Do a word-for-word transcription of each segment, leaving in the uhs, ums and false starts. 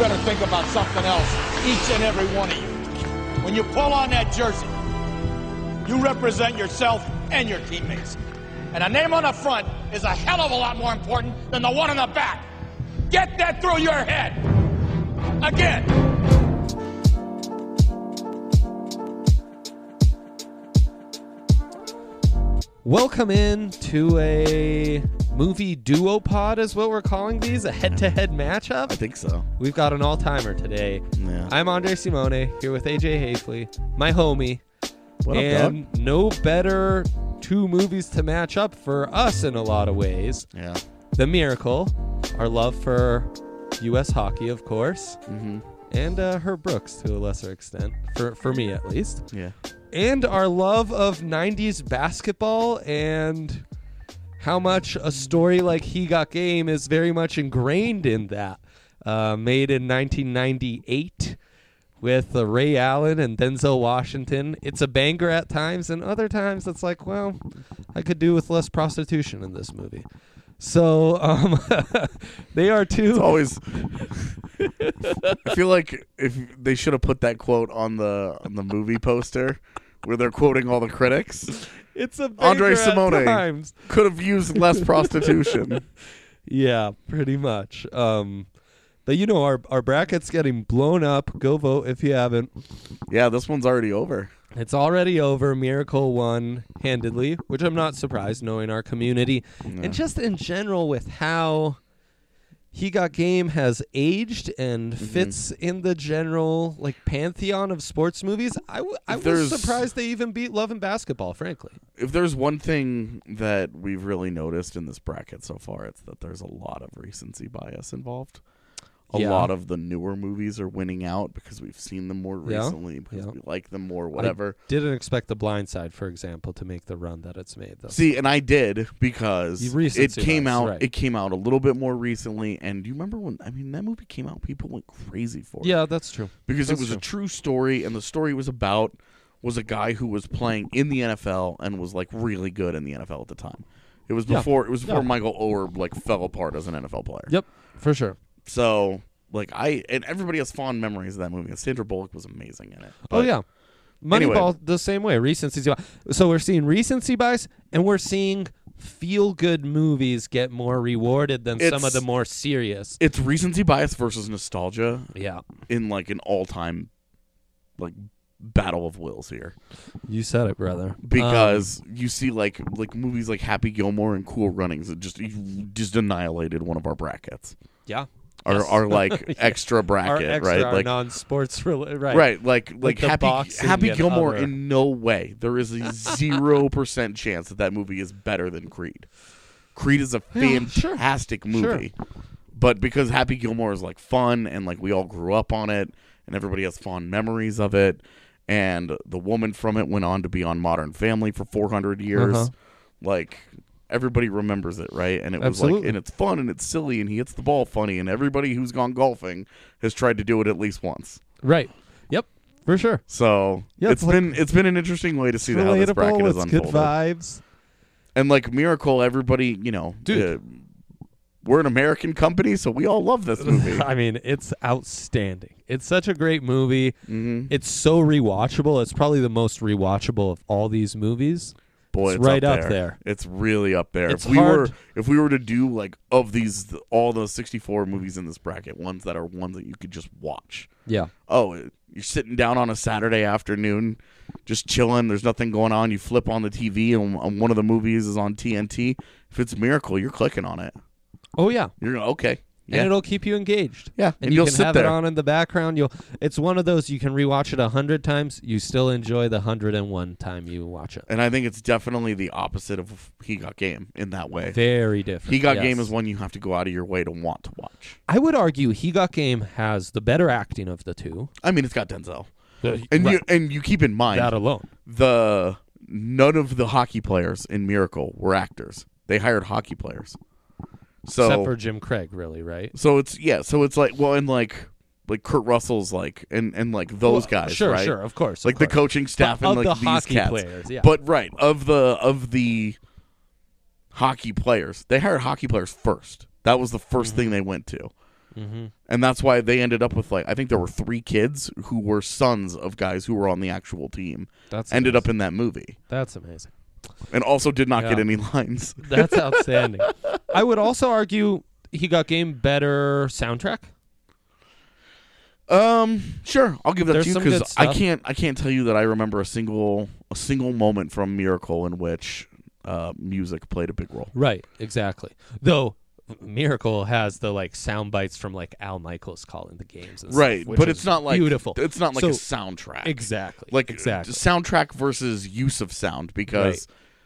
better think about something else, each and every one of you. When you pull on that jersey, you represent yourself and your teammates. And a name on the front is a hell of a lot more important than the one on the back. Get that through your head. Again. Welcome in to a movie duopod is what we're calling these, a head-to-head matchup. I think so. We've got an all-timer today. Yeah. I'm Andre Simone, here with A J Hafley, my homie. What up, and dog? no better two movies to match up for us in a lot of ways. Yeah. The Miracle, our love for U S hockey, of course, Mm-hmm. and uh, Herb Brooks to a lesser extent, for, for me at least. Yeah. And our love of nineties basketball and how much a story like He Got Game is very much ingrained in that. Uh, made in nineteen ninety-eight with uh, Ray Allen and Denzel Washington. It's a banger at times, and other times it's like, well, I could do with less prostitution in this movie. So um, they are two. It's always. I feel like if they should have put that quote on the on the movie poster, where they're quoting all the critics. It's a banger Andre at Simone times. could have used less prostitution. Yeah, pretty much. Um, but you know, our our bracket's getting blown up. Go vote if you haven't. Yeah, this one's already over. It's already over. Miracle won handedly, which I'm not surprised knowing our community. Yeah. And just in general with how He Got Game has aged and Mm-hmm. fits in the general like pantheon of sports movies, I, w- I was There's- surprised they even beat Love and Basketball, frankly. If there's one thing that we've really noticed in this bracket so far, it's that there's a lot of recency bias involved. A Yeah. lot of the newer movies are winning out because we've seen them more Yeah. recently, because Yeah. we like them more, whatever. I didn't expect The Blind Side, for example, to make the run that it's made, though. See, and I did because You it recency came bias, out. right. It came out a little bit more recently, and do you remember when? I mean, that movie came out, people went crazy for it. Yeah, that's true. because that's it was true. a true story, and the story was about was a guy who was playing in the N F L and was like really good in the N F L at the time. It was Yeah. before. It was before Yeah. Michael Oher like fell apart as an N F L player. Yep, for sure. So like I and everybody has fond memories of that movie. And Sandra Bullock was amazing in it. Oh, But yeah. anyway. Moneyball the same way. Recency bias. So we're seeing recency bias, and we're seeing feel-good movies get more rewarded than some It's- of the more serious. It's recency bias versus nostalgia Yeah, in like an all-time like battle of wills here. you said it, brother. Because you see like like movies like Happy Gilmore and Cool Runnings that just just annihilated one of our brackets. Yeah. Our Yes. our like Yeah. extra Our bracket, extra, right? our Like non-sports, rela- right? right, like like the Happy boxing Happy and Gilmore. other- In no way, there is a zero percent chance that that movie is better than Creed. Creed is a Yeah, sure. fantastic movie, but because Happy Gilmore is like fun and like we all grew up on it and everybody has fond memories of it, and the woman from it went on to be on Modern Family for four hundred years, Uh-huh. like. Everybody remembers it, right? And it was Absolutely. like, and it's fun and it's silly and he hits the ball funny, and everybody who's gone golfing has tried to do it at least once. Right. Yep. For sure. So Yeah, it's it's like- been it's been an interesting way to see how this bracket Relatable. has It's good unfolded. vibes. And like Miracle, everybody, you know, Dude. uh, we're an American company, so we all love this movie. I mean, it's outstanding. It's such a great movie. hmm It's so rewatchable. It's probably the most rewatchable of all these movies. Boy, It's it's, right up, up there. there. It's really up there. It's if we hard- were if we were to do like of these all the sixty-four movies in this bracket, ones that are ones that you could just watch. Yeah. Oh, you're sitting down on a Saturday afternoon, just chilling. There's nothing going on. You flip on the T V, and, and one of the movies is on T N T. If it's Miracle, you're clicking on it. Oh, yeah. You're okay. And Yeah. it'll keep you engaged. Yeah, And, and you you'll can sit have there. it on in the background. You'll. It's one of those you can rewatch it a hundred times. You still enjoy the hundred and one time you watch it. And I think it's definitely the opposite of He Got Game in that way. Very different. He Got yes. Game is one you have to go out of your way to want to watch. I would argue He Got Game has the better acting of the two. I mean, it's got Denzel, and Right. you and you keep in mind That alone. the none of the hockey players in Miracle were actors. They hired hockey players. So Except for Jim Craig, really, right? so it's yeah. So it's like well, and like like Kurt Russell's like and and like those Well, guys, Sure, right? sure, of course. Like of the course. coaching staff But and of like the these hockey cats. players, yeah. But right of the of the hockey players, they hired hockey players first. That was the 1st Mm-hmm. thing they went to. Mm-hmm. And that's why they ended up with, like, I think there were three kids who were sons of guys who were on the actual team. That's ended amazing. up in that movie. That's amazing. And also did not Yeah. get any lines. That's outstanding. I would also argue He Got Game better soundtrack. Um, sure, I'll give that There's to you some good because I stuff. can't I can't tell you that I remember a single a single moment from Miracle in which uh, music played a big role. Right, exactly. Though Miracle has the like sound bites from like Al Michaels calling the games, and Right, stuff, which but is it's not like beautiful. It's not like So- a soundtrack. Exactly. Like exactly. soundtrack versus use of sound because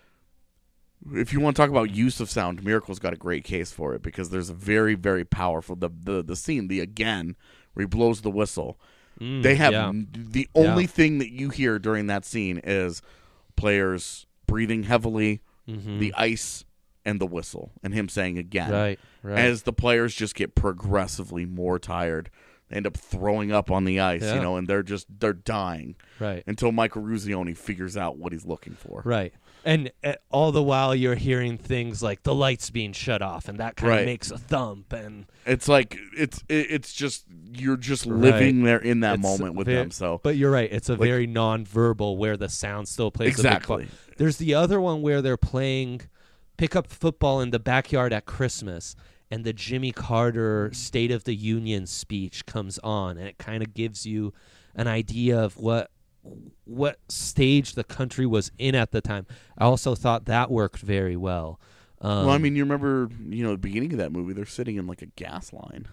if you want to talk about use of sound, Miracle's got a great case for it because there's a very very powerful the the, the scene the again where he blows the whistle. Mm, They have yeah. n- the only Yeah. thing that you hear during that scene is players breathing heavily, Mhm. the ice, and the whistle, and him saying again. Right, right. As the players just get progressively more tired, they end up throwing up on the ice, Yeah. you know, and they're just they're dying right. until Michael Ruzioni figures out what he's looking for. Right. And uh, all the while you're hearing things like the lights being shut off, and that kind Right. of makes a thump. And It's like it's it, it's just you're just living there in that It's moment with ve- them. So But you're right. It's a Like- very non-verbal where the sound still plays a big exactly. part. There's the other one where they're playing pickup football in the backyard at Christmas, and the Jimmy Carter State of the Union speech comes on, and it kind of gives you an idea of what what stage the country was in at the time. I also thought that worked very well. Um, Well, I mean, you remember, you know, the beginning of that movie, they're sitting in like a gas line,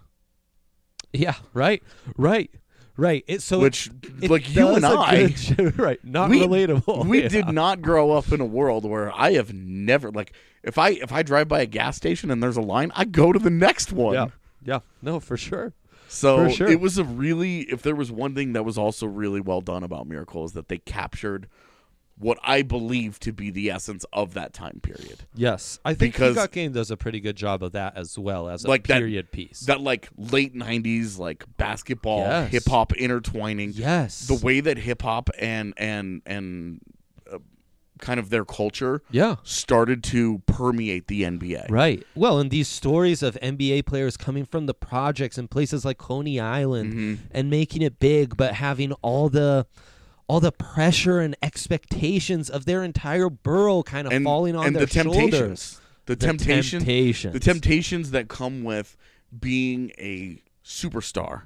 yeah, right, right, right. It so which, it like you does and a I, good- right, not we- relatable. we Yeah. did not grow up in a world where I have never like if I if I drive by a gas station and there's a line, I go to the next one. Yeah, yeah, no, for sure. So For sure. it was a really, if there was one thing that was also really well done about Miracle is that they captured what I believe to be the essence of that time period. Yes, I think Because- He Got Game does a pretty good job of that as well as a Like that- period piece. That like late nineties like basketball, Yes. hip hop intertwining. yes, The way that hip hop and and and uh, kind of their culture yeah, started to permeate the N B A. right. Well, and these stories of N B A players coming from the projects in places like Coney Island Mm-hmm. and making it big, but having all the all the pressure and expectations of their entire borough kind of And, falling on and their the temptations. shoulders. The, The temptation, temptations. the temptations that come with being a superstar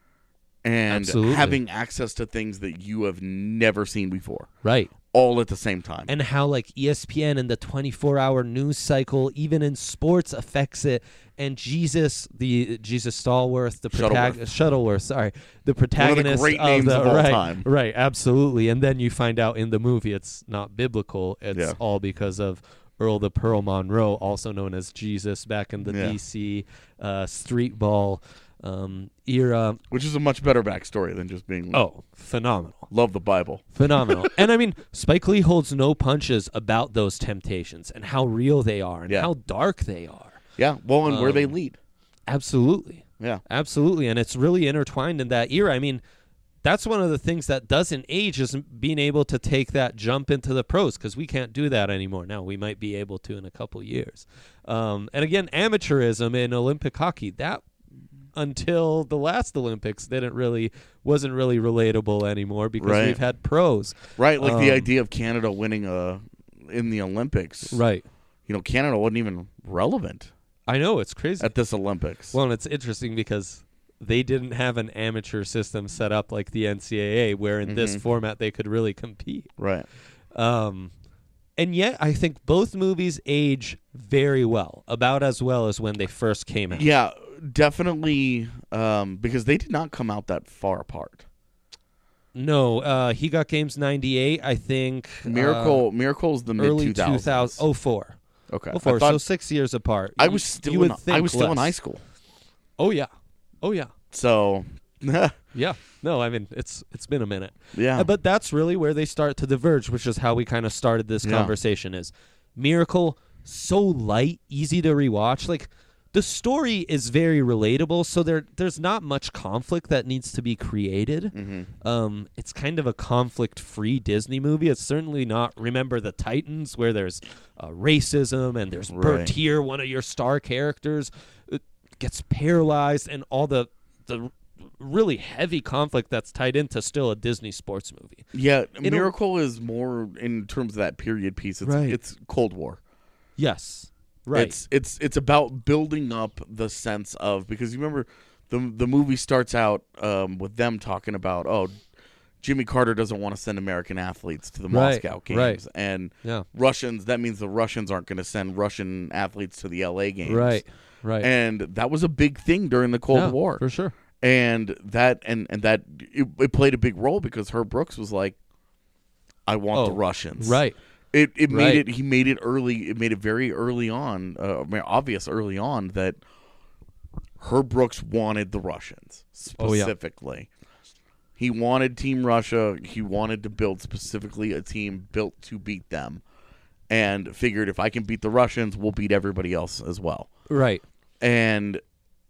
and Absolutely. having access to things that you have never seen before, Right. all at the same time. And how like E S P N and the twenty-four hour news cycle, even in sports, affects it. And Jesus, the Jesus Stallworth, the Shuttleworth. protagonist, Shuttleworth, sorry, the protagonist great names the, of all right, time. right, absolutely. And then you find out in the movie it's not biblical. It's Yeah. all because of Earl the Pearl Monroe, also known as Jesus, back in the Yeah. D C uh, street ball um, era. Which is a much better backstory than just being Oh, phenomenal. love the Bible. Phenomenal. And I mean, Spike Lee holds no punches about those temptations and how real they are and Yeah. how dark they are. Yeah, well, and where they Um, lead. Absolutely. Yeah. Absolutely. And it's really intertwined in that era. I mean, that's one of the things that doesn't age is being able to take that jump into the pros because we can't do that anymore. Now, we might be able to in a couple years. Um, and again, amateurism in Olympic hockey, that until the last Olympics didn't really wasn't really relatable anymore because Right. we've had pros. Right, like the Um, idea of Canada winning a in the Olympics. Right. You know, Canada wasn't even relevant I know, it's crazy. at this Olympics. Well, and it's interesting because they didn't have an amateur system set up like the N C double A, where in this Mhm. format they could really compete. right. Um, and yet, I think both movies age very well, about as well as when they first came out. Yeah, definitely um, because they did not come out that far apart. No, uh, He Got Games ninety-eight, I think. Miracle Miracle's the uh, mid early two thousands. two thousand, oh four. Okay. Oh four, I, thought, so six years apart. I You- was still you would in, I think was still in less. high school. Oh, yeah. Oh, yeah. So, yeah. Yeah. No, I mean, it's it's been a minute. Yeah. Uh, but that's really where they start to diverge, which is how we kind of started this Yeah. conversation. Is Miracle so light, easy to rewatch? Like the story is very relatable, so there there's not much conflict that needs to be created. Mm-hmm. Um, it's kind of a conflict-free Disney movie. It's certainly not Remember the Titans, where there's uh, racism and there's Right. Bertier, one of your star characters. Uh, gets paralyzed, and all the the really heavy conflict that's tied into still a Disney sports movie. Yeah, It'll, Miracle is more in terms of that period piece. It's right. it's Cold War. Yes, right. It's it's it's about building up the sense of, because you remember the the movie starts out um, with them talking about, oh, Jimmy Carter doesn't want to send American athletes to the right, Moscow games, right. and yeah. Russians. That means the Russians aren't going to send Russian athletes to the L A games, right, right. And that was a big thing during the Cold yeah, War, for sure. And that and and that it, it played a big role because Herb Brooks was like, I want oh, the Russians, right. It it right. made it he made it early. It made it very early on, uh, obvious early on that Herb Brooks wanted the Russians specifically. Oh, yeah. He wanted Team Russia. He wanted to build specifically a team built to beat them, and figured if I can beat the Russians, we'll beat everybody else as well. Right. And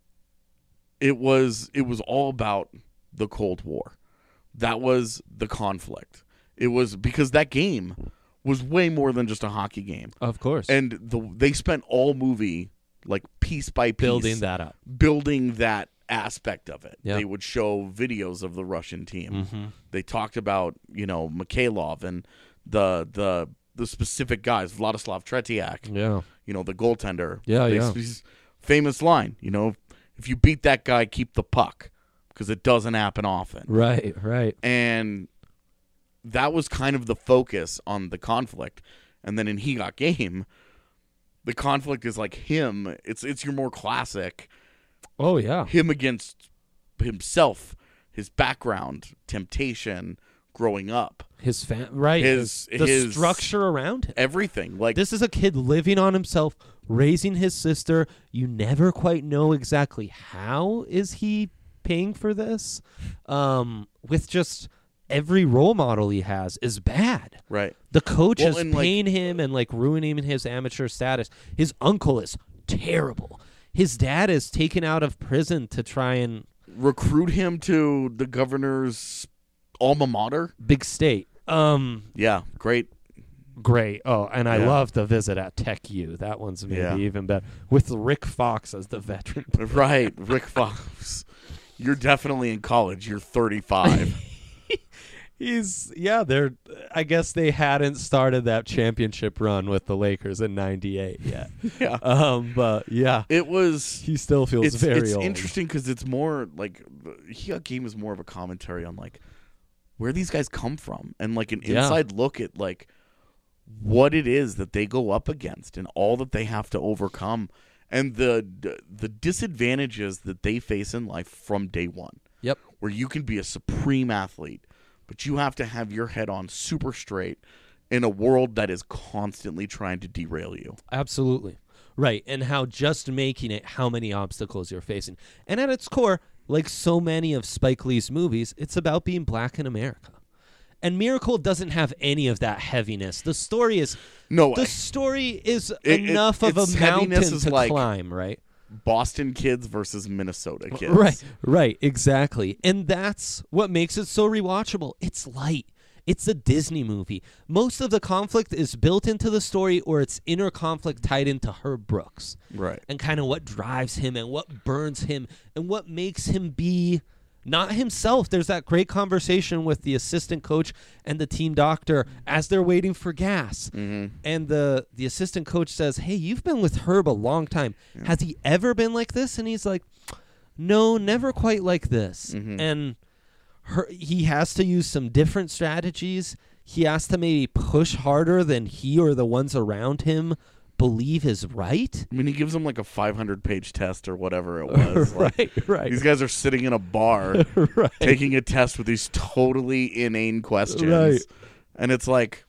it was it was all about the Cold War. That was the conflict. It was because that game was way more than just a hockey game. Of course. And the they spent all movie, like, piece by piece, building that up. Building that aspect of it. Yep. They would show videos of the Russian team. Mm-hmm. They talked about, you know, Mikhailov and the the the specific guys, Vladislav Tretiak. Yeah. You know, the goaltender. Yeah, they, yeah. Famous line, you know, if you beat that guy, keep the puck, because it doesn't happen often. Right, right. And that was kind of the focus on the conflict. And then in He Got Game, the conflict is like him. It's it's your more classic. Oh, yeah. Him against himself, his background, temptation, growing up. His fam- right. His, the his structure around him. Everything. Like this is a kid living on himself, raising his sister. You never quite know exactly how is he paying for this. Um, with just every role model he has is bad. Right. The coach well, is like, paying him and like ruining his amateur status. His uncle is terrible. His dad is taken out of prison to try and recruit him to the governor's alma mater. Big State. Um, yeah, great. Great. Oh, and I yeah. love the visit at Tech U. That one's maybe yeah. even better. With Rick Fox as the veteran. Right, Rick Fox. You're definitely in college. You're thirty-five. He's yeah, they're I guess they hadn't started that championship run with the Lakers in ninety-eight yet. yeah. Um but yeah. It was he still feels it's, very it's old. It's interesting cuz it's more like He Got Game is more of a commentary on like where these guys come from and like an yeah. inside look at like what it is that they go up against and all that they have to overcome and the the disadvantages that they face in life from day one. Yep. Where you can be a supreme athlete, but you have to have your head on super straight in a world that is constantly trying to derail you. Absolutely. Right. And how just making it, how many obstacles you're facing. And at its core, like so many of Spike Lee's movies, it's about being black in America. And Miracle doesn't have any of that heaviness. The story is no. The story is it, enough it, of a mountain to like climb, right? Boston kids versus Minnesota kids. Right, right, exactly. And that's what makes it so rewatchable. It's light. It's a Disney movie. Most of the conflict is built into the story or it's inner conflict tied into Herb Brooks. Right. And kind of what drives him and what burns him and what makes him be not himself. There's that great conversation with the assistant coach and the team doctor as they're waiting for gas. Mm-hmm. And the, the assistant coach says, hey, you've been with Herb a long time. Yeah. Has he ever been like this? And he's like, no, never quite like this. Mm-hmm. And her, he has to use some different strategies. He has to maybe push harder than he or the ones around him believe is right. I mean, he gives them like a five hundred page test or whatever it was. right, like, right. These guys are sitting in a bar right. taking a test with these totally inane questions. Right. And it's like,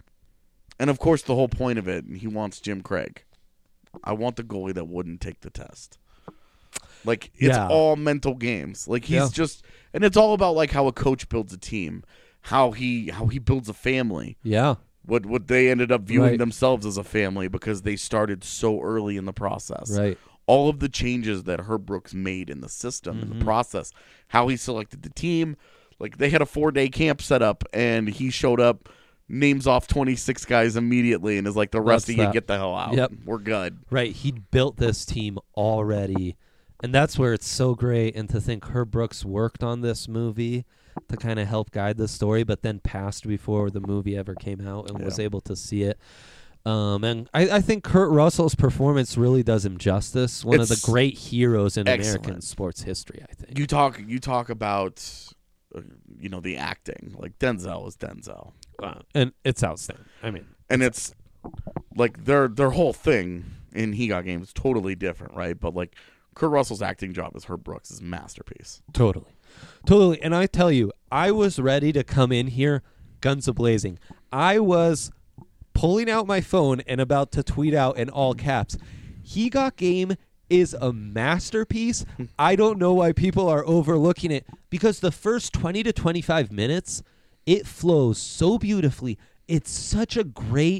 and of course the whole point of it, he wants Jim Craig. I want the goalie that wouldn't take the test. Like, it's yeah. all mental games. Like, he's yeah. just, and it's all about like how a coach builds a team, how he how he builds a family. Yeah. What what they ended up viewing right. themselves as a family because they started so early in the process. Right. All of the changes that Herb Brooks made in the system, mm-hmm. in the process, how he selected the team. Like, they had a four-day camp set up, and he showed up, names off twenty-six guys immediately, and is like, the rest That's of you that. get the hell out. Yep. We're good. Right. He built this team already And that's where it's so great. And to think Herb Brooks worked on this movie to kind of help guide the story, but then passed before the movie ever came out and Yeah. was able to see it. Um, and I, I think Kurt Russell's performance really does him justice. One of It's the great heroes in excellent. American sports history, I think. You talk you talk about uh, you know the acting. Like Denzel is Denzel. Uh, and it's outstanding. I mean, And it's like their their whole thing in He Got Game is totally different, right? But like Kurt Russell's acting job as Herb Brooks' masterpiece. Totally. Totally. And I tell you, I was ready to come in here guns a-blazing. I was pulling out my phone and about to tweet out in all caps, He Got Game is a masterpiece. I don't know why people are overlooking it, because the first twenty to twenty-five minutes, it flows so beautifully. It's such a great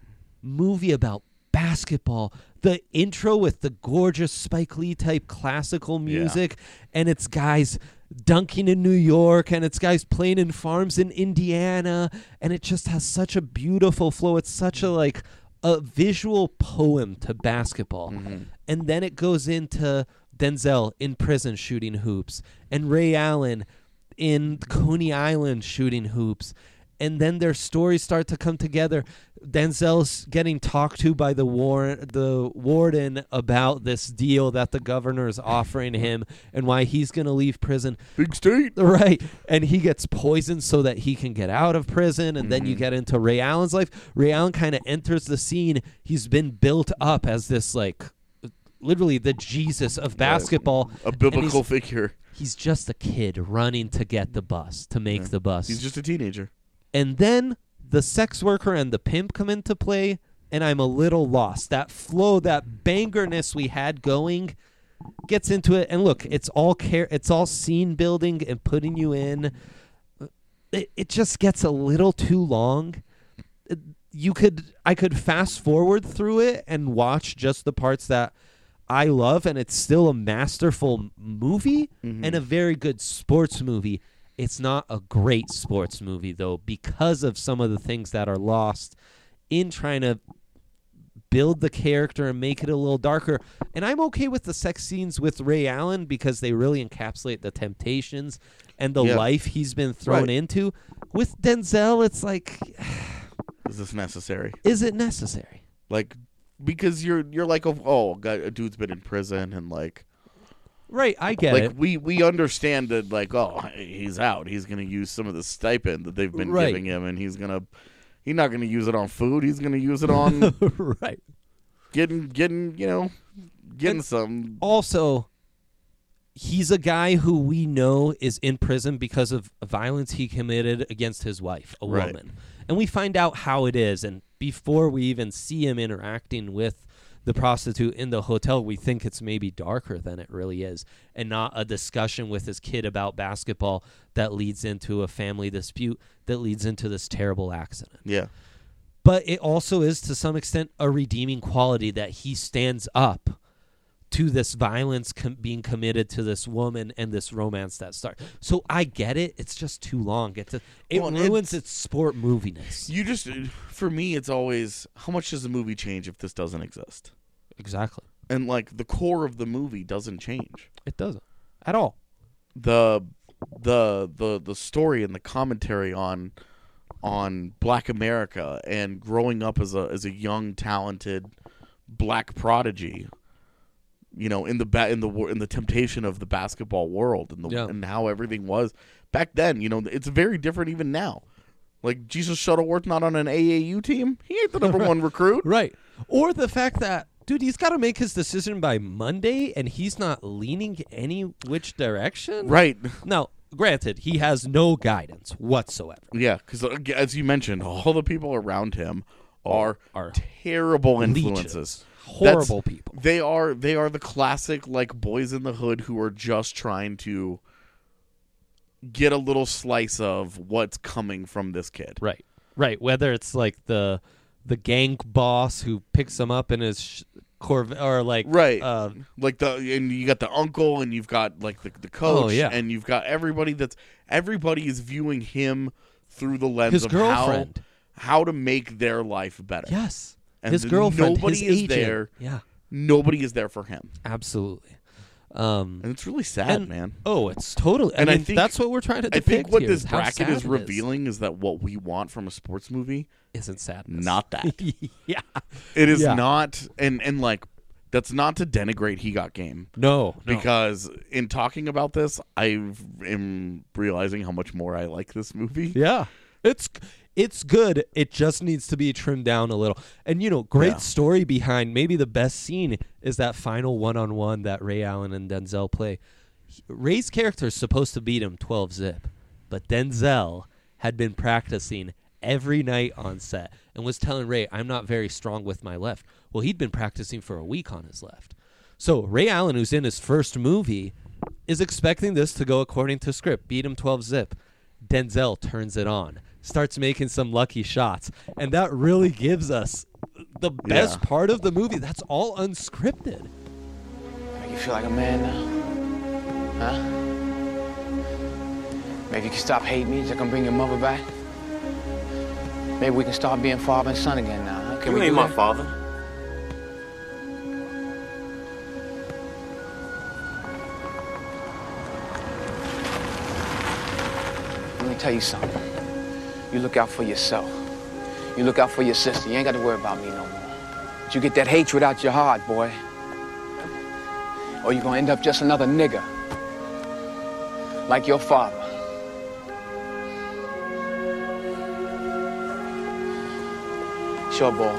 movie about basketball. The intro with the gorgeous Spike Lee type classical music, and it's guys dunking in New York, and it's guys playing in farms in Indiana, and it just has such a beautiful flow. It's such a like a visual poem to basketball. Mm-hmm. And then it goes into Denzel in prison shooting hoops, and Ray Allen in Coney Island shooting hoops. And then their stories start to come together. Denzel's getting talked to by the war- the warden about this deal that the governor is offering him and why he's going to leave prison. Big state. Right. And he gets poisoned so that he can get out of prison. And then you Mm-hmm. get into Ray Allen's life. Ray Allen kind of enters the scene. He's been built up as this, like, literally the Jesus of basketball. A And biblical he's, figure. he's just a kid running to get the bus, to make Yeah. the bus. He's just a teenager. And then the sex worker and the pimp come into play, and I'm a little lost. That flow, that bangerness we had going gets into it. And look, it's all care it's all scene building and putting you in. It, it just gets a little too long. It- You could I could fast forward through it and watch just the parts that I love, and it's still a masterful movie Mhm. and a very good sports movie. It's not a great sports movie, though, because of some of the things that are lost in trying to build the character and make it a little darker. And I'm okay with the sex scenes with Ray Allen because they really encapsulate the temptations and the Yeah. life he's been thrown Right. into. With Denzel, it's like, Is this necessary? is it necessary? Like, because you're you're like, oh, oh God, a dude's been in prison and like, Right, I get like it. we we understand that like, oh, he's out. He's gonna use some of the stipend that they've been Right. giving him, and he's gonna he's not gonna use it on food. He's gonna use it on Right. getting getting you know getting And some. Also, he's a guy who we know is in prison because of violence he committed against his wife, a Right. woman. And we find out how it is. And before we even see him interacting with the prostitute in the hotel, we think it's maybe darker than it really is, and not a discussion with his kid about basketball that leads into a family dispute that leads into this terrible accident. Yeah, But it also is, to some extent, a redeeming quality that he stands up to this violence com- being committed to this woman and this romance that starts. So I get it. It's just too long. It's a, it Well, and ruins it's- its sport moviness. you just for me, it's always how much does the movie change if this doesn't exist? Exactly. And like the core of the movie doesn't change. It doesn't at all. the the the the story and the commentary on on Black America and growing up as a as a young talented black prodigy, you know, in the ba- in the wor- in the temptation of the basketball world and the Yeah. and how everything was back then. You know, it's very different even now. Like Jesus Shuttleworth not on an A A U team, he ain't the number one recruit. Right. Or the fact that, dude, he's got to make his decision by Monday, and he's not leaning any which direction. Right. Now, granted, he has no guidance whatsoever. Yeah, because as you mentioned, all the people around him are, are terrible leeches. influences. Horrible That's- people. They are they are the classic like boys in the hood who are just trying to get a little slice of what's coming from this kid. Right. Right. Whether it's like the the gang boss who picks him up in his sh- Corvette, or like Right. uh, Like the and you got the uncle and you've got like the, the coach Oh, yeah. and you've got everybody that's everybody is viewing him through the lens his of girlfriend. how how to make their life better. Yes. And his the- girlfriend. nobody his is agent. there. Yeah. Nobody is there for him. Absolutely. Um, And it's really sad, and- man. oh, it's totally. I And I mean, think- that's what we're trying to I depict think what here, this is how bracket sad is it revealing is that what we want from a sports movie, isn't sadness. not that. yeah. It is Yeah. not, and and like that's not to denigrate He Got Game, No, no. because in talking about this, I am realizing how much more I like this movie. Yeah. It's it's good. It just needs to be trimmed down a little. And you know, great Yeah. story behind maybe the best scene is that final one-on-one that Ray Allen and Denzel play. He- Ray's character is supposed to beat him twelve zip, but Denzel had been practicing every night on set and was telling Ray, "I'm not very strong with my left." Well, he'd been practicing for a week on his left. So Ray Allen, who's in his first movie, is expecting this to go according to script, beat him twelve zip. Denzel turns it on, starts making some lucky shots, and that really gives us the best Yeah. part of the movie. That's all unscripted. Make you feel like a man now? Huh? Maybe you can stop hating me so I can bring your mother back? Maybe we can start being father and son again now, huh? Can You we ain't do my that? father. Let me tell you something. You look out for yourself. You look out for your sister. You ain't got to worry about me no more. But you get that hatred out your heart, boy. Or you're gonna end up just another nigger. Like your father. Sure, boy.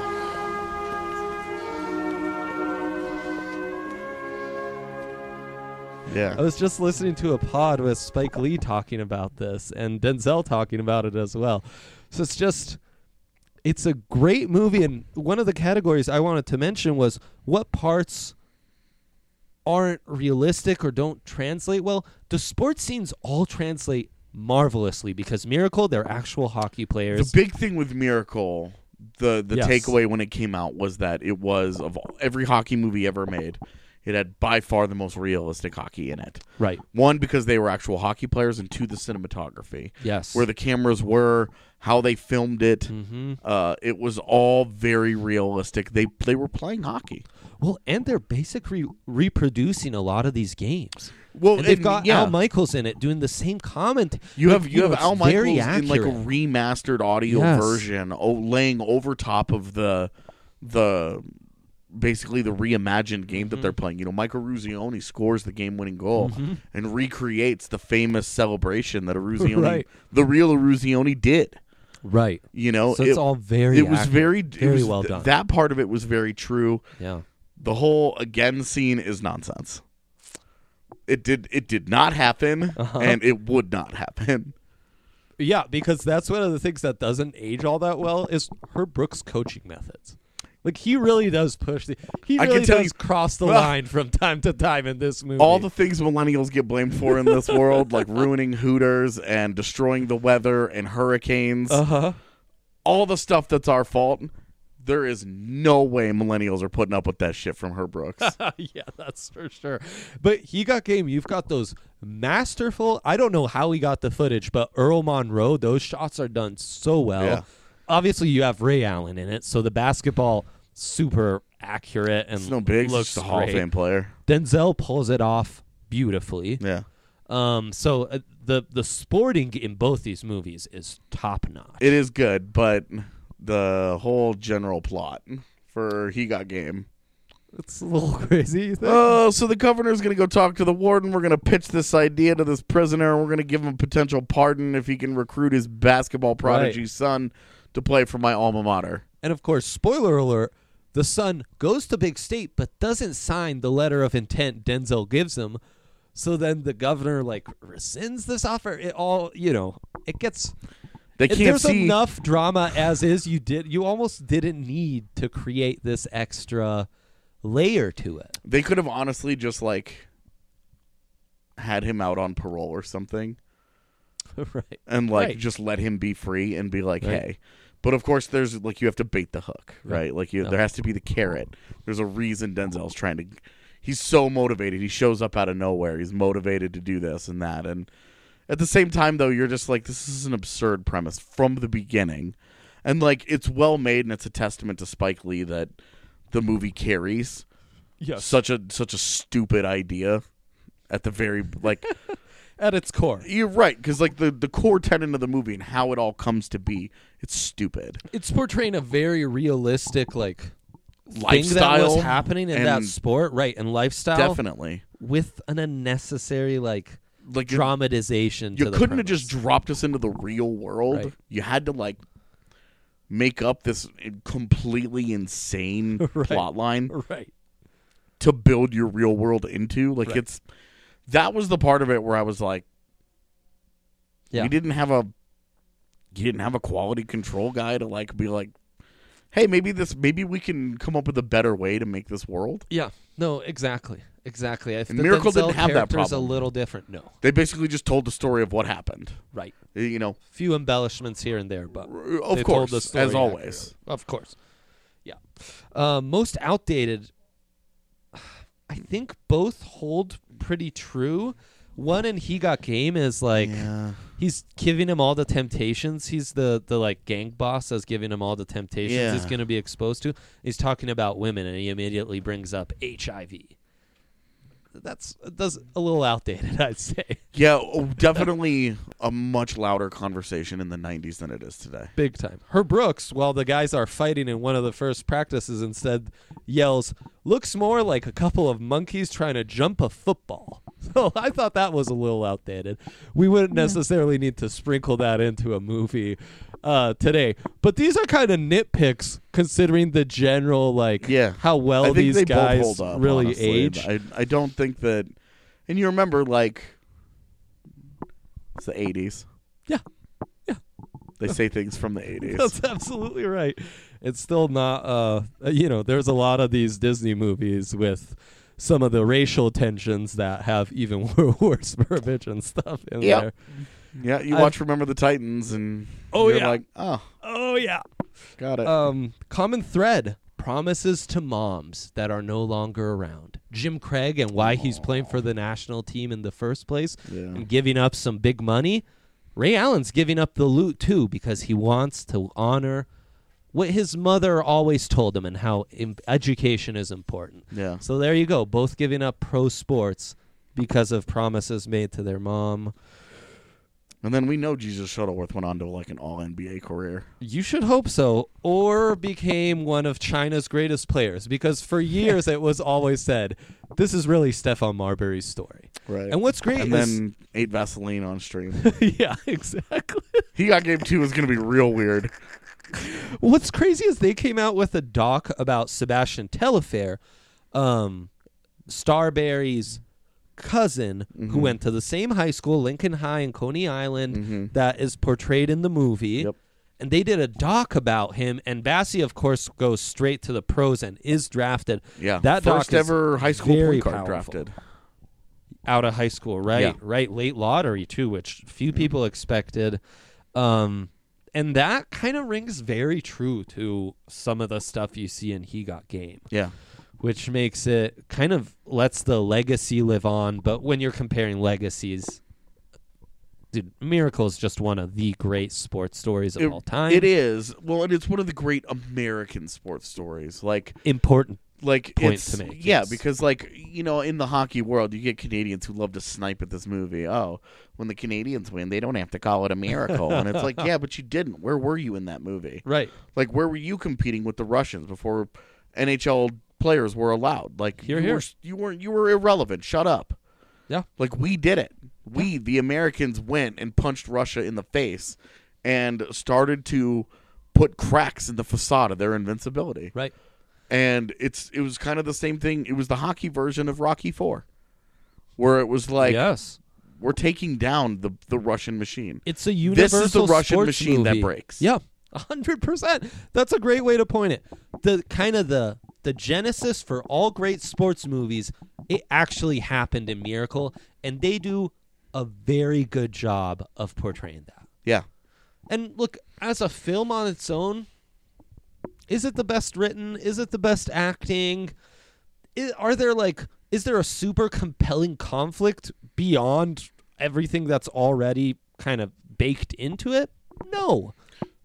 Yeah. I was just listening to a pod with Spike Lee talking about this and Denzel talking about it as well. So it's just, it's a great movie. And one of the categories I wanted to mention was what parts aren't realistic or don't translate well. The sports scenes all translate marvelously because Miracle, they're actual hockey The players. big thing with Miracle, the the Yes. takeaway when it came out was that it was, of all, every hockey movie ever made, it had by far the most realistic hockey in it. Right. One, because they were actual hockey players, and two, the cinematography. Yes. Where the cameras were, how they filmed it. Mm-hmm. Uh, it was all very realistic. They they were playing hockey. Well, and they're basically reproducing a lot of these games. Well, And they've and, got yeah. Al Michaels in it doing the same comment. You Like, have you, have know, it's Al very Michaels in like a accurate. remastered audio Yes. version, oh, laying over top of the the basically the reimagined game that Mm-hmm. they're playing. You know, Michael Ruzioni scores the game-winning goal Mm-hmm. and recreates the famous celebration that Ruzioni, Right. the real Ruzioni, did. Right. You know, So it's it, all very It was accurate. very it Very was- well th- done. That part of it was very true. Yeah. The whole again scene is nonsense. It did it did not happen, Uh-huh. and it would not happen. Yeah, because that's one of the things that doesn't age all that well is Herb Brooks' coaching methods. Like, he really does push the he I really can tell does you- cross the Well, line from time to time in this movie. All the things millennials get blamed for in this world, like ruining Hooters and destroying the weather and hurricanes, Uh-huh. all the stuff that's our fault, there is no way millennials are putting up with that shit from Herb Brooks. Yeah, that's for sure. But He Got Game, you've got those masterful, I don't know how he got the footage, but Earl Monroe, those shots are done so well. Yeah. Obviously, you have Ray Allen in it, so the basketball, super accurate and It's no big, it's looks just a Hall of great. Fame player. Denzel pulls it off beautifully. Yeah. Um, so uh, the the sporting in both these movies is top notch. It is good, but the whole general plot for He Got Game. It's a little crazy. You think? Oh, so the governor's going to go talk to the warden. We're going to pitch this idea to this prisoner. We're going to give him a potential pardon if he can recruit his basketball prodigy Right. son to play for my alma mater. And of course, spoiler alert, the son goes to Big State but doesn't sign the letter of intent Denzel gives him. So then the governor like rescinds this offer. It all, you know, it gets They it- can't there's see. enough drama as is. You did you almost didn't need to create this extra layer to it. They could have honestly just like had him out on parole or something Right. and like Right. just let him be free and be like, Right. hey. But of course, there's like you have to bait the hook, right? Right. Like you, Yeah. there has to be the carrot. There's a reason Denzel's trying to. He's so motivated. He shows up out of nowhere. He's motivated to do this and that. And at the same time, though, you're just like, this is an absurd premise from the beginning. And like, it's well made, and it's a testament to Spike Lee that the movie carries Yes. such a such a stupid idea. at the very like At its core. You're right, because like the, the core tenet of the movie and how it all comes to be, it's stupid. It's portraying a very realistic like Lifestyle thing that was happening in that and- sport, right? And lifestyle, Definitely. with an unnecessary like Like you- dramatization. You to the couldn't have premise. just dropped us into the real world. Right. You had to like make up this completely insane Right. plot line right. to build your real world into. Like Right. it's that was the part of it where I was like, Yeah. you didn't have a you didn't have a quality control guy to like be like, hey, maybe this maybe we can come up with a better way to make this world. Yeah. No. Exactly. Exactly. I And Miracle didn't have that Is a problem. little different. No. They basically just told the story of what happened. Right. You know, Few embellishments here and there, but of they course, told the story as always. accurately. Of course. Yeah. Um, most outdated. I think both hold pretty true. One in He Got Game is like Yeah. he's giving him all the temptations. He's the the like gang boss that's giving him all the temptations Yeah. he's going to be exposed to. He's talking about women, and he immediately brings up H I V. That's that's a little outdated, I'd say. Yeah, oh, definitely a much louder conversation in the nineties than it is today. Big time. Herb Brooks, while the guys are fighting in one of the first practices, instead yells, "Looks more like a couple of monkeys trying to jump a football." So I thought that was a little outdated. We wouldn't necessarily need to sprinkle that into a movie uh, today. But these are kind of nitpicks considering the general, like, Yeah. how well I think these they guys both hold up, really honestly. age. I I don't think that, and you remember like it's the eighties. Yeah. They say things from the eighties. That's absolutely right. It's still not, uh, you know, there's a lot of these Disney movies with some of the racial tensions that have even worse verbiage and stuff in Yep. there. Yeah, you I've- watch Remember the Titans, and Oh, you're yeah. like, oh, Oh, yeah. got it. Um, common thread, promises to moms that are no longer around. Jim Craig and why he's playing for the national team in the first place Yeah. and giving up some big money. Ray Allen's giving up the loot, too, because he wants to honor what his mother always told him and how im- education is important. Yeah. So there you go, both giving up pro sports because of promises made to their mom. And then we know Jesus Shuttleworth went on to like an all N B A career. You should hope so, or became one of China's greatest players, because for years it was always said, this is really Stephon Marbury's story. Right. And what's great And is... then ate Vaseline on stream. yeah, exactly. He Got Game two is going to be real weird. What's crazy is they came out with a doc about Sebastian Telfair, um, Starberry's cousin, who went to the same high school, Lincoln High in Coney Island, Mhm. that is portrayed in the movie. Yep. And they did a doc about him, and Bassie, of course, goes straight to the pros and is drafted. Yeah. That doc First is ever high school very point guard powerful. drafted. Out of high school, right? Yeah. Right, late lottery too, which few people expected. Um, and that kind of rings very true to some of the stuff you see in He Got Game, Yeah. which makes it kind of lets the legacy live on. But when you're comparing legacies, dude, Miracle is just one of the great sports stories of It- all time. It is. Well, and it's one of the great American sports stories. Like, important. like Point it's, to make, yeah, yes. because like you know, in the hockey world, you get Canadians who love to snipe at this movie. Oh, when the Canadians win, they don't have to call it a miracle, and it's like, yeah, but you didn't. Where were you in that movie? Right. Like, where were you competing with the Russians before N H L players were allowed? Like, Here, you here. were you weren't you were irrelevant. Shut up. Yeah. Like, we did it. We, the Americans, went and punched Russia in the face and started to put cracks in the facade of their invincibility. Right. And it's it was kind of the same thing. It was the hockey version of Rocky four, where it was like, yes. we're taking down the, the Russian machine. It's a This universal is the Russian sports machine that movie. breaks. Yeah, a hundred percent. That's a great way to point it. The kind of the the genesis for all great sports movies, it actually happened in Miracle, and they do a very good job of portraying that. Yeah. And look, as a film on its own, is it the best written? Is it the best acting? I are there like is there a super compelling conflict beyond everything that's already kind of baked into it? No.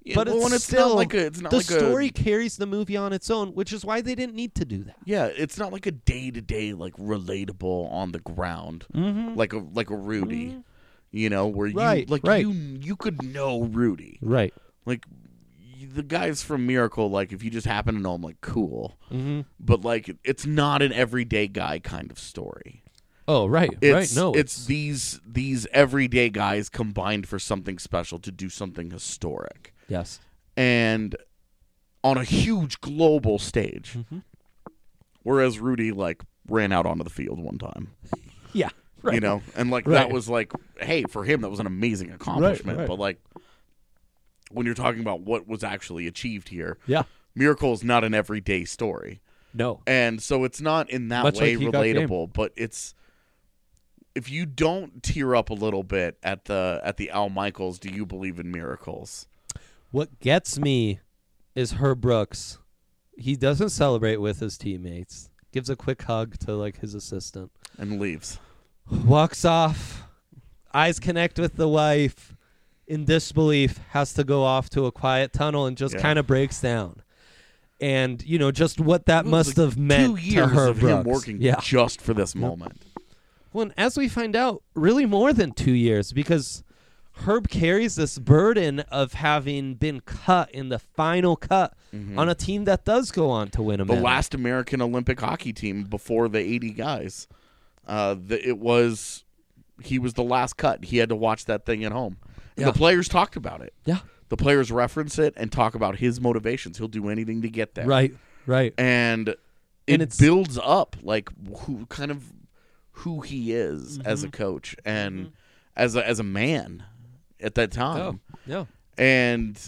but well, it's and it's still not like a, it's not the like story a, carries the movie on its own, which is why they didn't need to do that. yeah, it's not like a day to day like relatable on the ground, Mm-hmm. like a like a Rudy, Mhm. you know, where you Right, like right. you you could know Rudy, Right. like y- the guys from Miracle. Like if you just happen to know him, like cool, Mm-hmm. but like it's not an everyday guy kind of story. Oh, right, It's, right. No, it's these these everyday guys combined for something special to do something historic, yes. and on a huge global stage. Mm-hmm. Whereas Rudy like ran out onto the field one time, Yeah, right. you know, and like Right. that was like, hey, for him that was an amazing accomplishment. right. But like when you're talking about what was actually achieved here, Yeah. Miracle is not an everyday story, No. and so it's not in that Much way like He Got Game. relatable. But it's if you don't tear up a little bit at the at the Al Michaels, do you believe in miracles? What gets me is Herb Brooks. He doesn't celebrate with his teammates. Gives a quick hug to like his assistant. And leaves. Walks off. Eyes connect with the wife. In disbelief, has to go off to a quiet tunnel and just Yeah. kind of breaks down. And you know just what that It was must like have meant two years to Herb of Brooks. him working yeah. just for this moment. Well, and as we find out, really more than two years because Herb carries this burden of having been cut in the final cut on a team that does go on to win a Mm-hmm. The medal. last American Olympic hockey team before the eighty guys. Uh, the, it was he was the last cut. He had to watch that thing at home. And Yeah. the players talked about it. Yeah. The players reference it and talk about his motivations. He'll do anything to get there. Right, right. And it And it's- builds up like who kind of who he is as Mm-hmm. a coach and as a as a man at that time. Oh, yeah. And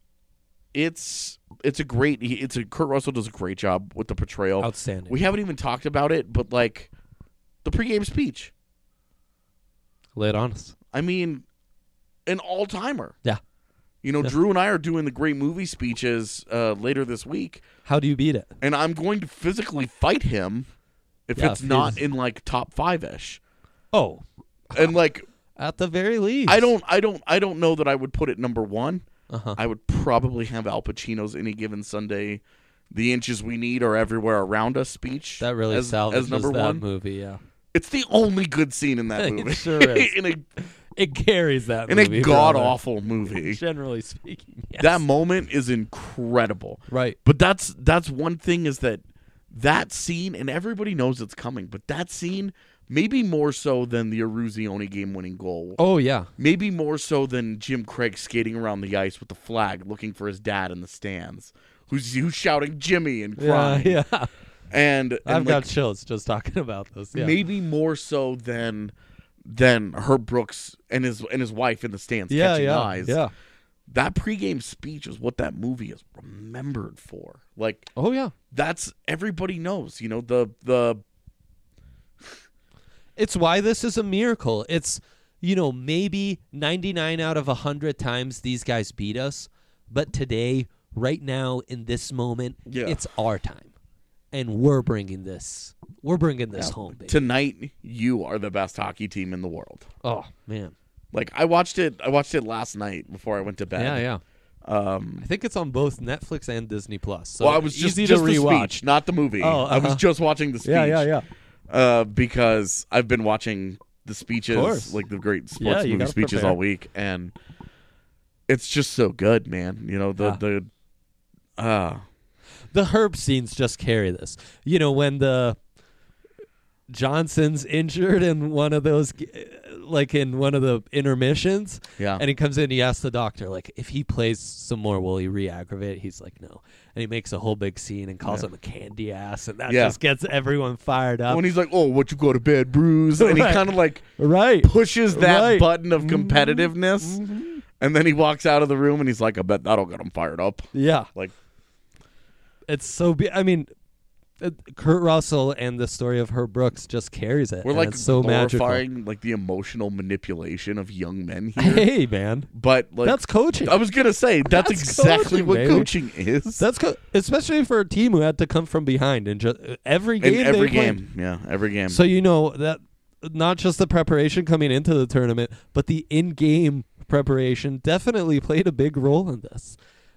it's it's a great he- it's a Kurt Russell does a great job with the portrayal. Outstanding. We haven't even talked about it, but like the pregame speech. Lay it on us. I mean, an all timer. Yeah. You know, Yeah. Drew and I are doing the great movie speeches uh, later this week, How do you beat it? and I'm going to physically fight him if Yeah, it's if not he's- in like top five ish. Oh, And like at the very least. I don't I don't I don't know that I would put it number one. Uh-huh. I would probably have Al Pacino's Any Given Sunday, The Inches We Need Are Everywhere Around Us speech. That really as, salvages as number that one. movie, yeah. It's the only good scene in that It movie. sure is. in a It carries that in movie. a god brother. awful movie. Generally speaking, yes. That moment is incredible. Right. But that's that's one thing is that that scene, and everybody knows it's coming, but that scene, maybe more so than the Eruzione game-winning goal. Oh, yeah. Maybe more so than Jim Craig skating around the ice with the flag looking for his dad in the stands, who's, who's shouting Jimmy and Yeah, crying. yeah. And, and I've like, got chills just talking about this. Yeah. maybe more so than than Herb Brooks and his and his wife in the stands yeah, catching yeah, eyes. yeah. That pregame speech is what that movie is remembered for. Like Oh, yeah. that's everybody knows, you know, the the It's why this is a miracle. It's, you know, maybe ninety-nine out of one hundred times these guys beat us, but today, right now, in this moment, Yeah. it's our time. And we're bringing this. We're bringing this home, baby. tonight you are the best hockey team in the world. Oh, man. Like I watched it I watched it last night before I went to bed. Yeah, yeah. Um I think it's on both Netflix and Disney Plus. So well, I was just, easy just to the rewatch. speech, not the movie. Oh, I was uh-huh. just watching the speech. Yeah, yeah, yeah. Uh, because I've been watching the speeches, course. like the great Yeah, sports you movie gotta speeches prepare. all week, and it's just so good, man. You know the Yeah. the uh The Herb scenes just carry this. You know, when the Johnson's injured in one of those, g- like in one of the intermissions, yeah. and he comes in, he asks the doctor, like, if he plays some more, will he re-aggravate? He's like, no. And he makes a whole big scene and calls Yeah. him a candy ass, and that Yeah. just gets everyone fired up. When he's like, "Oh, what you go to bed, Bruce?" and he Right. kind of like Right. pushes that Right. button of Mhm. competitiveness, Mhm. and then he walks out of the room and he's like, "I bet that'll get him fired up." Yeah. Like, It's so, be- I mean, uh, Kurt Russell and the story of Herb Brooks just carries it. we're and like it's so magical. glorifying like the emotional manipulation of young men here. Hey, man. But like, That's coaching. I was gonna say that's, That's exactly coaching, what baby. coaching is. That's co- especially for a team who had to come from behind and just every game. In every they played. game, yeah, every game. So you know that not just the preparation coming into the tournament, but the in-game preparation definitely played a big role in this.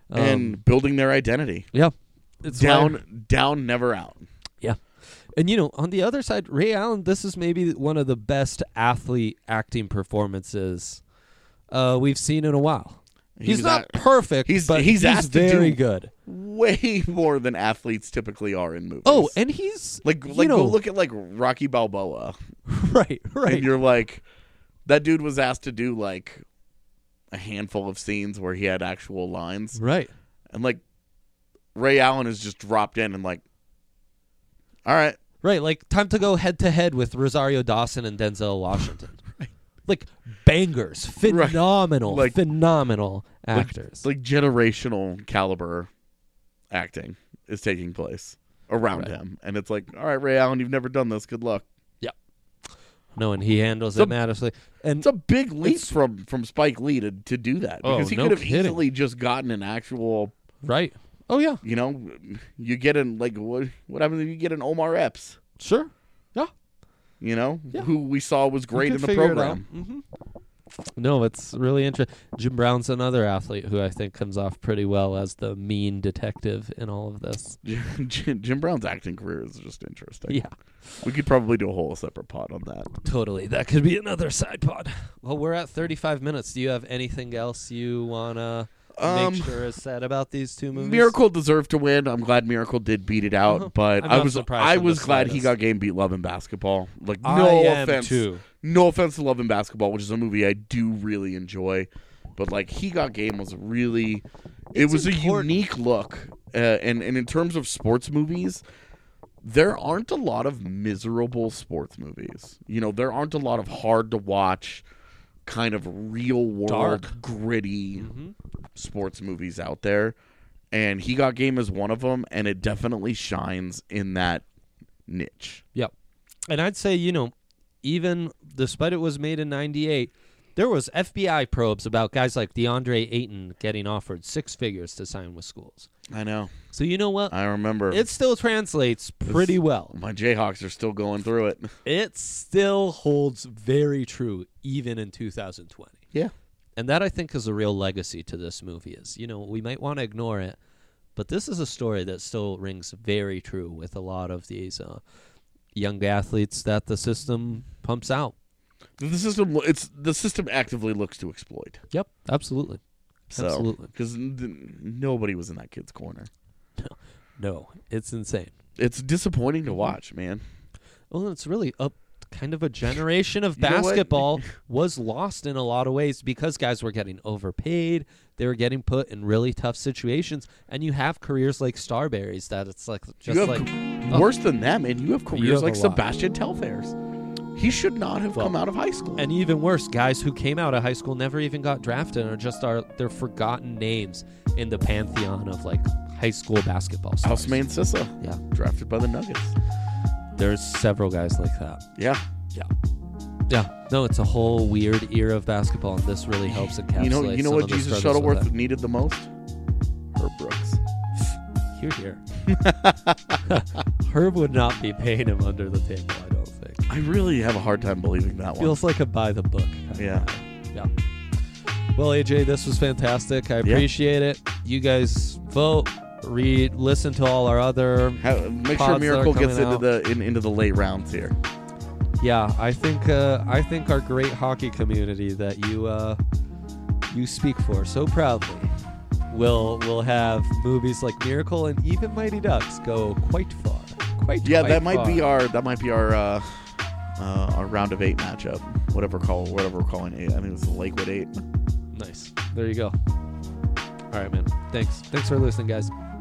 Um, and building their identity. Yeah. It's down, why- down, never out. Yeah. And, you know, on the other side, Ray Allen, this is maybe one of the best athlete acting performances uh, we've seen in a while. He He's was not at- perfect, he's- but he's he's, asked to very do- good. Way more than athletes typically are in movies. Oh, and he's like, you like know, go look at like Rocky Balboa, right, right. and you're like, that dude was asked to do like a handful of scenes where he had actual lines, right. and like Ray Allen is just dropped in and like, all right, Right, like time to go head to head with Rosario Dawson and Denzel Washington. Right. Like bangers, phenomenal, Like- phenomenal like- actors. like generational caliber acting is taking place around Right. him, and it's like, all right, Ray Allen, you've never done this. Good luck. no, and he handles It's a- it masterfully. And It's a big leap It's- from from Spike Lee to, to do that Oh, because he no could have kidding. easily just gotten an actual, right. Oh yeah, you know, you get an like what what happens if you get an Omar Epps, sure. Yeah. you know, Yeah. who we saw was great You in could the figure it program. out. Mhm. No, it's really interesting. Jim Brown's another athlete who I think comes off pretty well as the mean detective in all of this. Jim, Jim Brown's acting career is just interesting. Yeah. We could probably do a whole separate pod on that. Totally. That could be another side pod. Well, we're at thirty-five minutes. Do you have anything else you want to Um, make sure is said about these two movies? Miracle deserved to win. I'm glad Miracle did beat it out, Uh-huh. but I'm I not was surprised I in the was glad he slightest. got Game beat Love and Basketball. Like no I am offense, too. no offense to Love and Basketball, which is a movie I do really enjoy, but like He Got Game was really, it It's was important. a unique look, uh, and and in terms of sports movies, there aren't a lot of miserable sports movies. You know, there aren't a lot of hard to watch, kind of real world, Dark. gritty Mhm. sports movies out there, and He Got Game is one of them, and it definitely shines in that niche. Yep. And I'd say, you know, even despite it was made in ninety-eight, there was F B I probes about guys like DeAndre Ayton getting offered six figures to sign with schools. I know. So you know what? I remember. It still translates pretty well. My Jayhawks are still going through it. It still holds very true even in two thousand twenty. Yeah. And that, I think, is a real legacy to this movie. Is, you know, we might want to ignore it, but this is a story that still rings very true with a lot of these uh, young athletes that the system pumps out. The system, it's the system actively looks to exploit. Yep, absolutely. So, Absolutely. because n- nobody was in that kid's corner. No, it's insane. It's disappointing to watch, man. Well, it's really up. Kind of a generation of You know what? basketball was lost in a lot of ways because guys were getting overpaid. They were getting put in really tough situations, and you have careers like Starberry's that it's like just you have like c- oh. worse than that, man. You have careers have like a lot. Sebastian Telfair's. He should not have Well, come out of high school. And even worse, guys who came out of high school never even got drafted and are just are they're forgotten names in the pantheon of like high school basketball stars. Housemane Sissa, Yeah. drafted by the Nuggets. There's several guys like that. Yeah. Yeah. Yeah. No, it's a whole weird era of basketball, and this really helps encapsulate You know, you know some what of the Jesus struggles with Shuttleworth needed the most? Herb Brooks. that. Here, here. Herb would not be paying him under the table, I don't think. I really have a hard time believing that one. Feels like a by the book. kind of Yeah. guy. Yeah. Well, A J, this was fantastic. I appreciate it. You guys vote, read, listen to all our other. How, make pods sure that are Miracle gets coming into out. the in, into the late rounds here. Yeah, I think uh, I think our great hockey community that you uh, you speak for so proudly will will have movies like Miracle and even Mighty Ducks go quite far. Quite Yeah, quite that might far. be our that might be our uh, uh, our round of eight matchup. Whatever call whatever we're calling eight. I think it's the Lakewood eight. Nice. There you go. All right, man. Thanks. Thanks for listening, guys.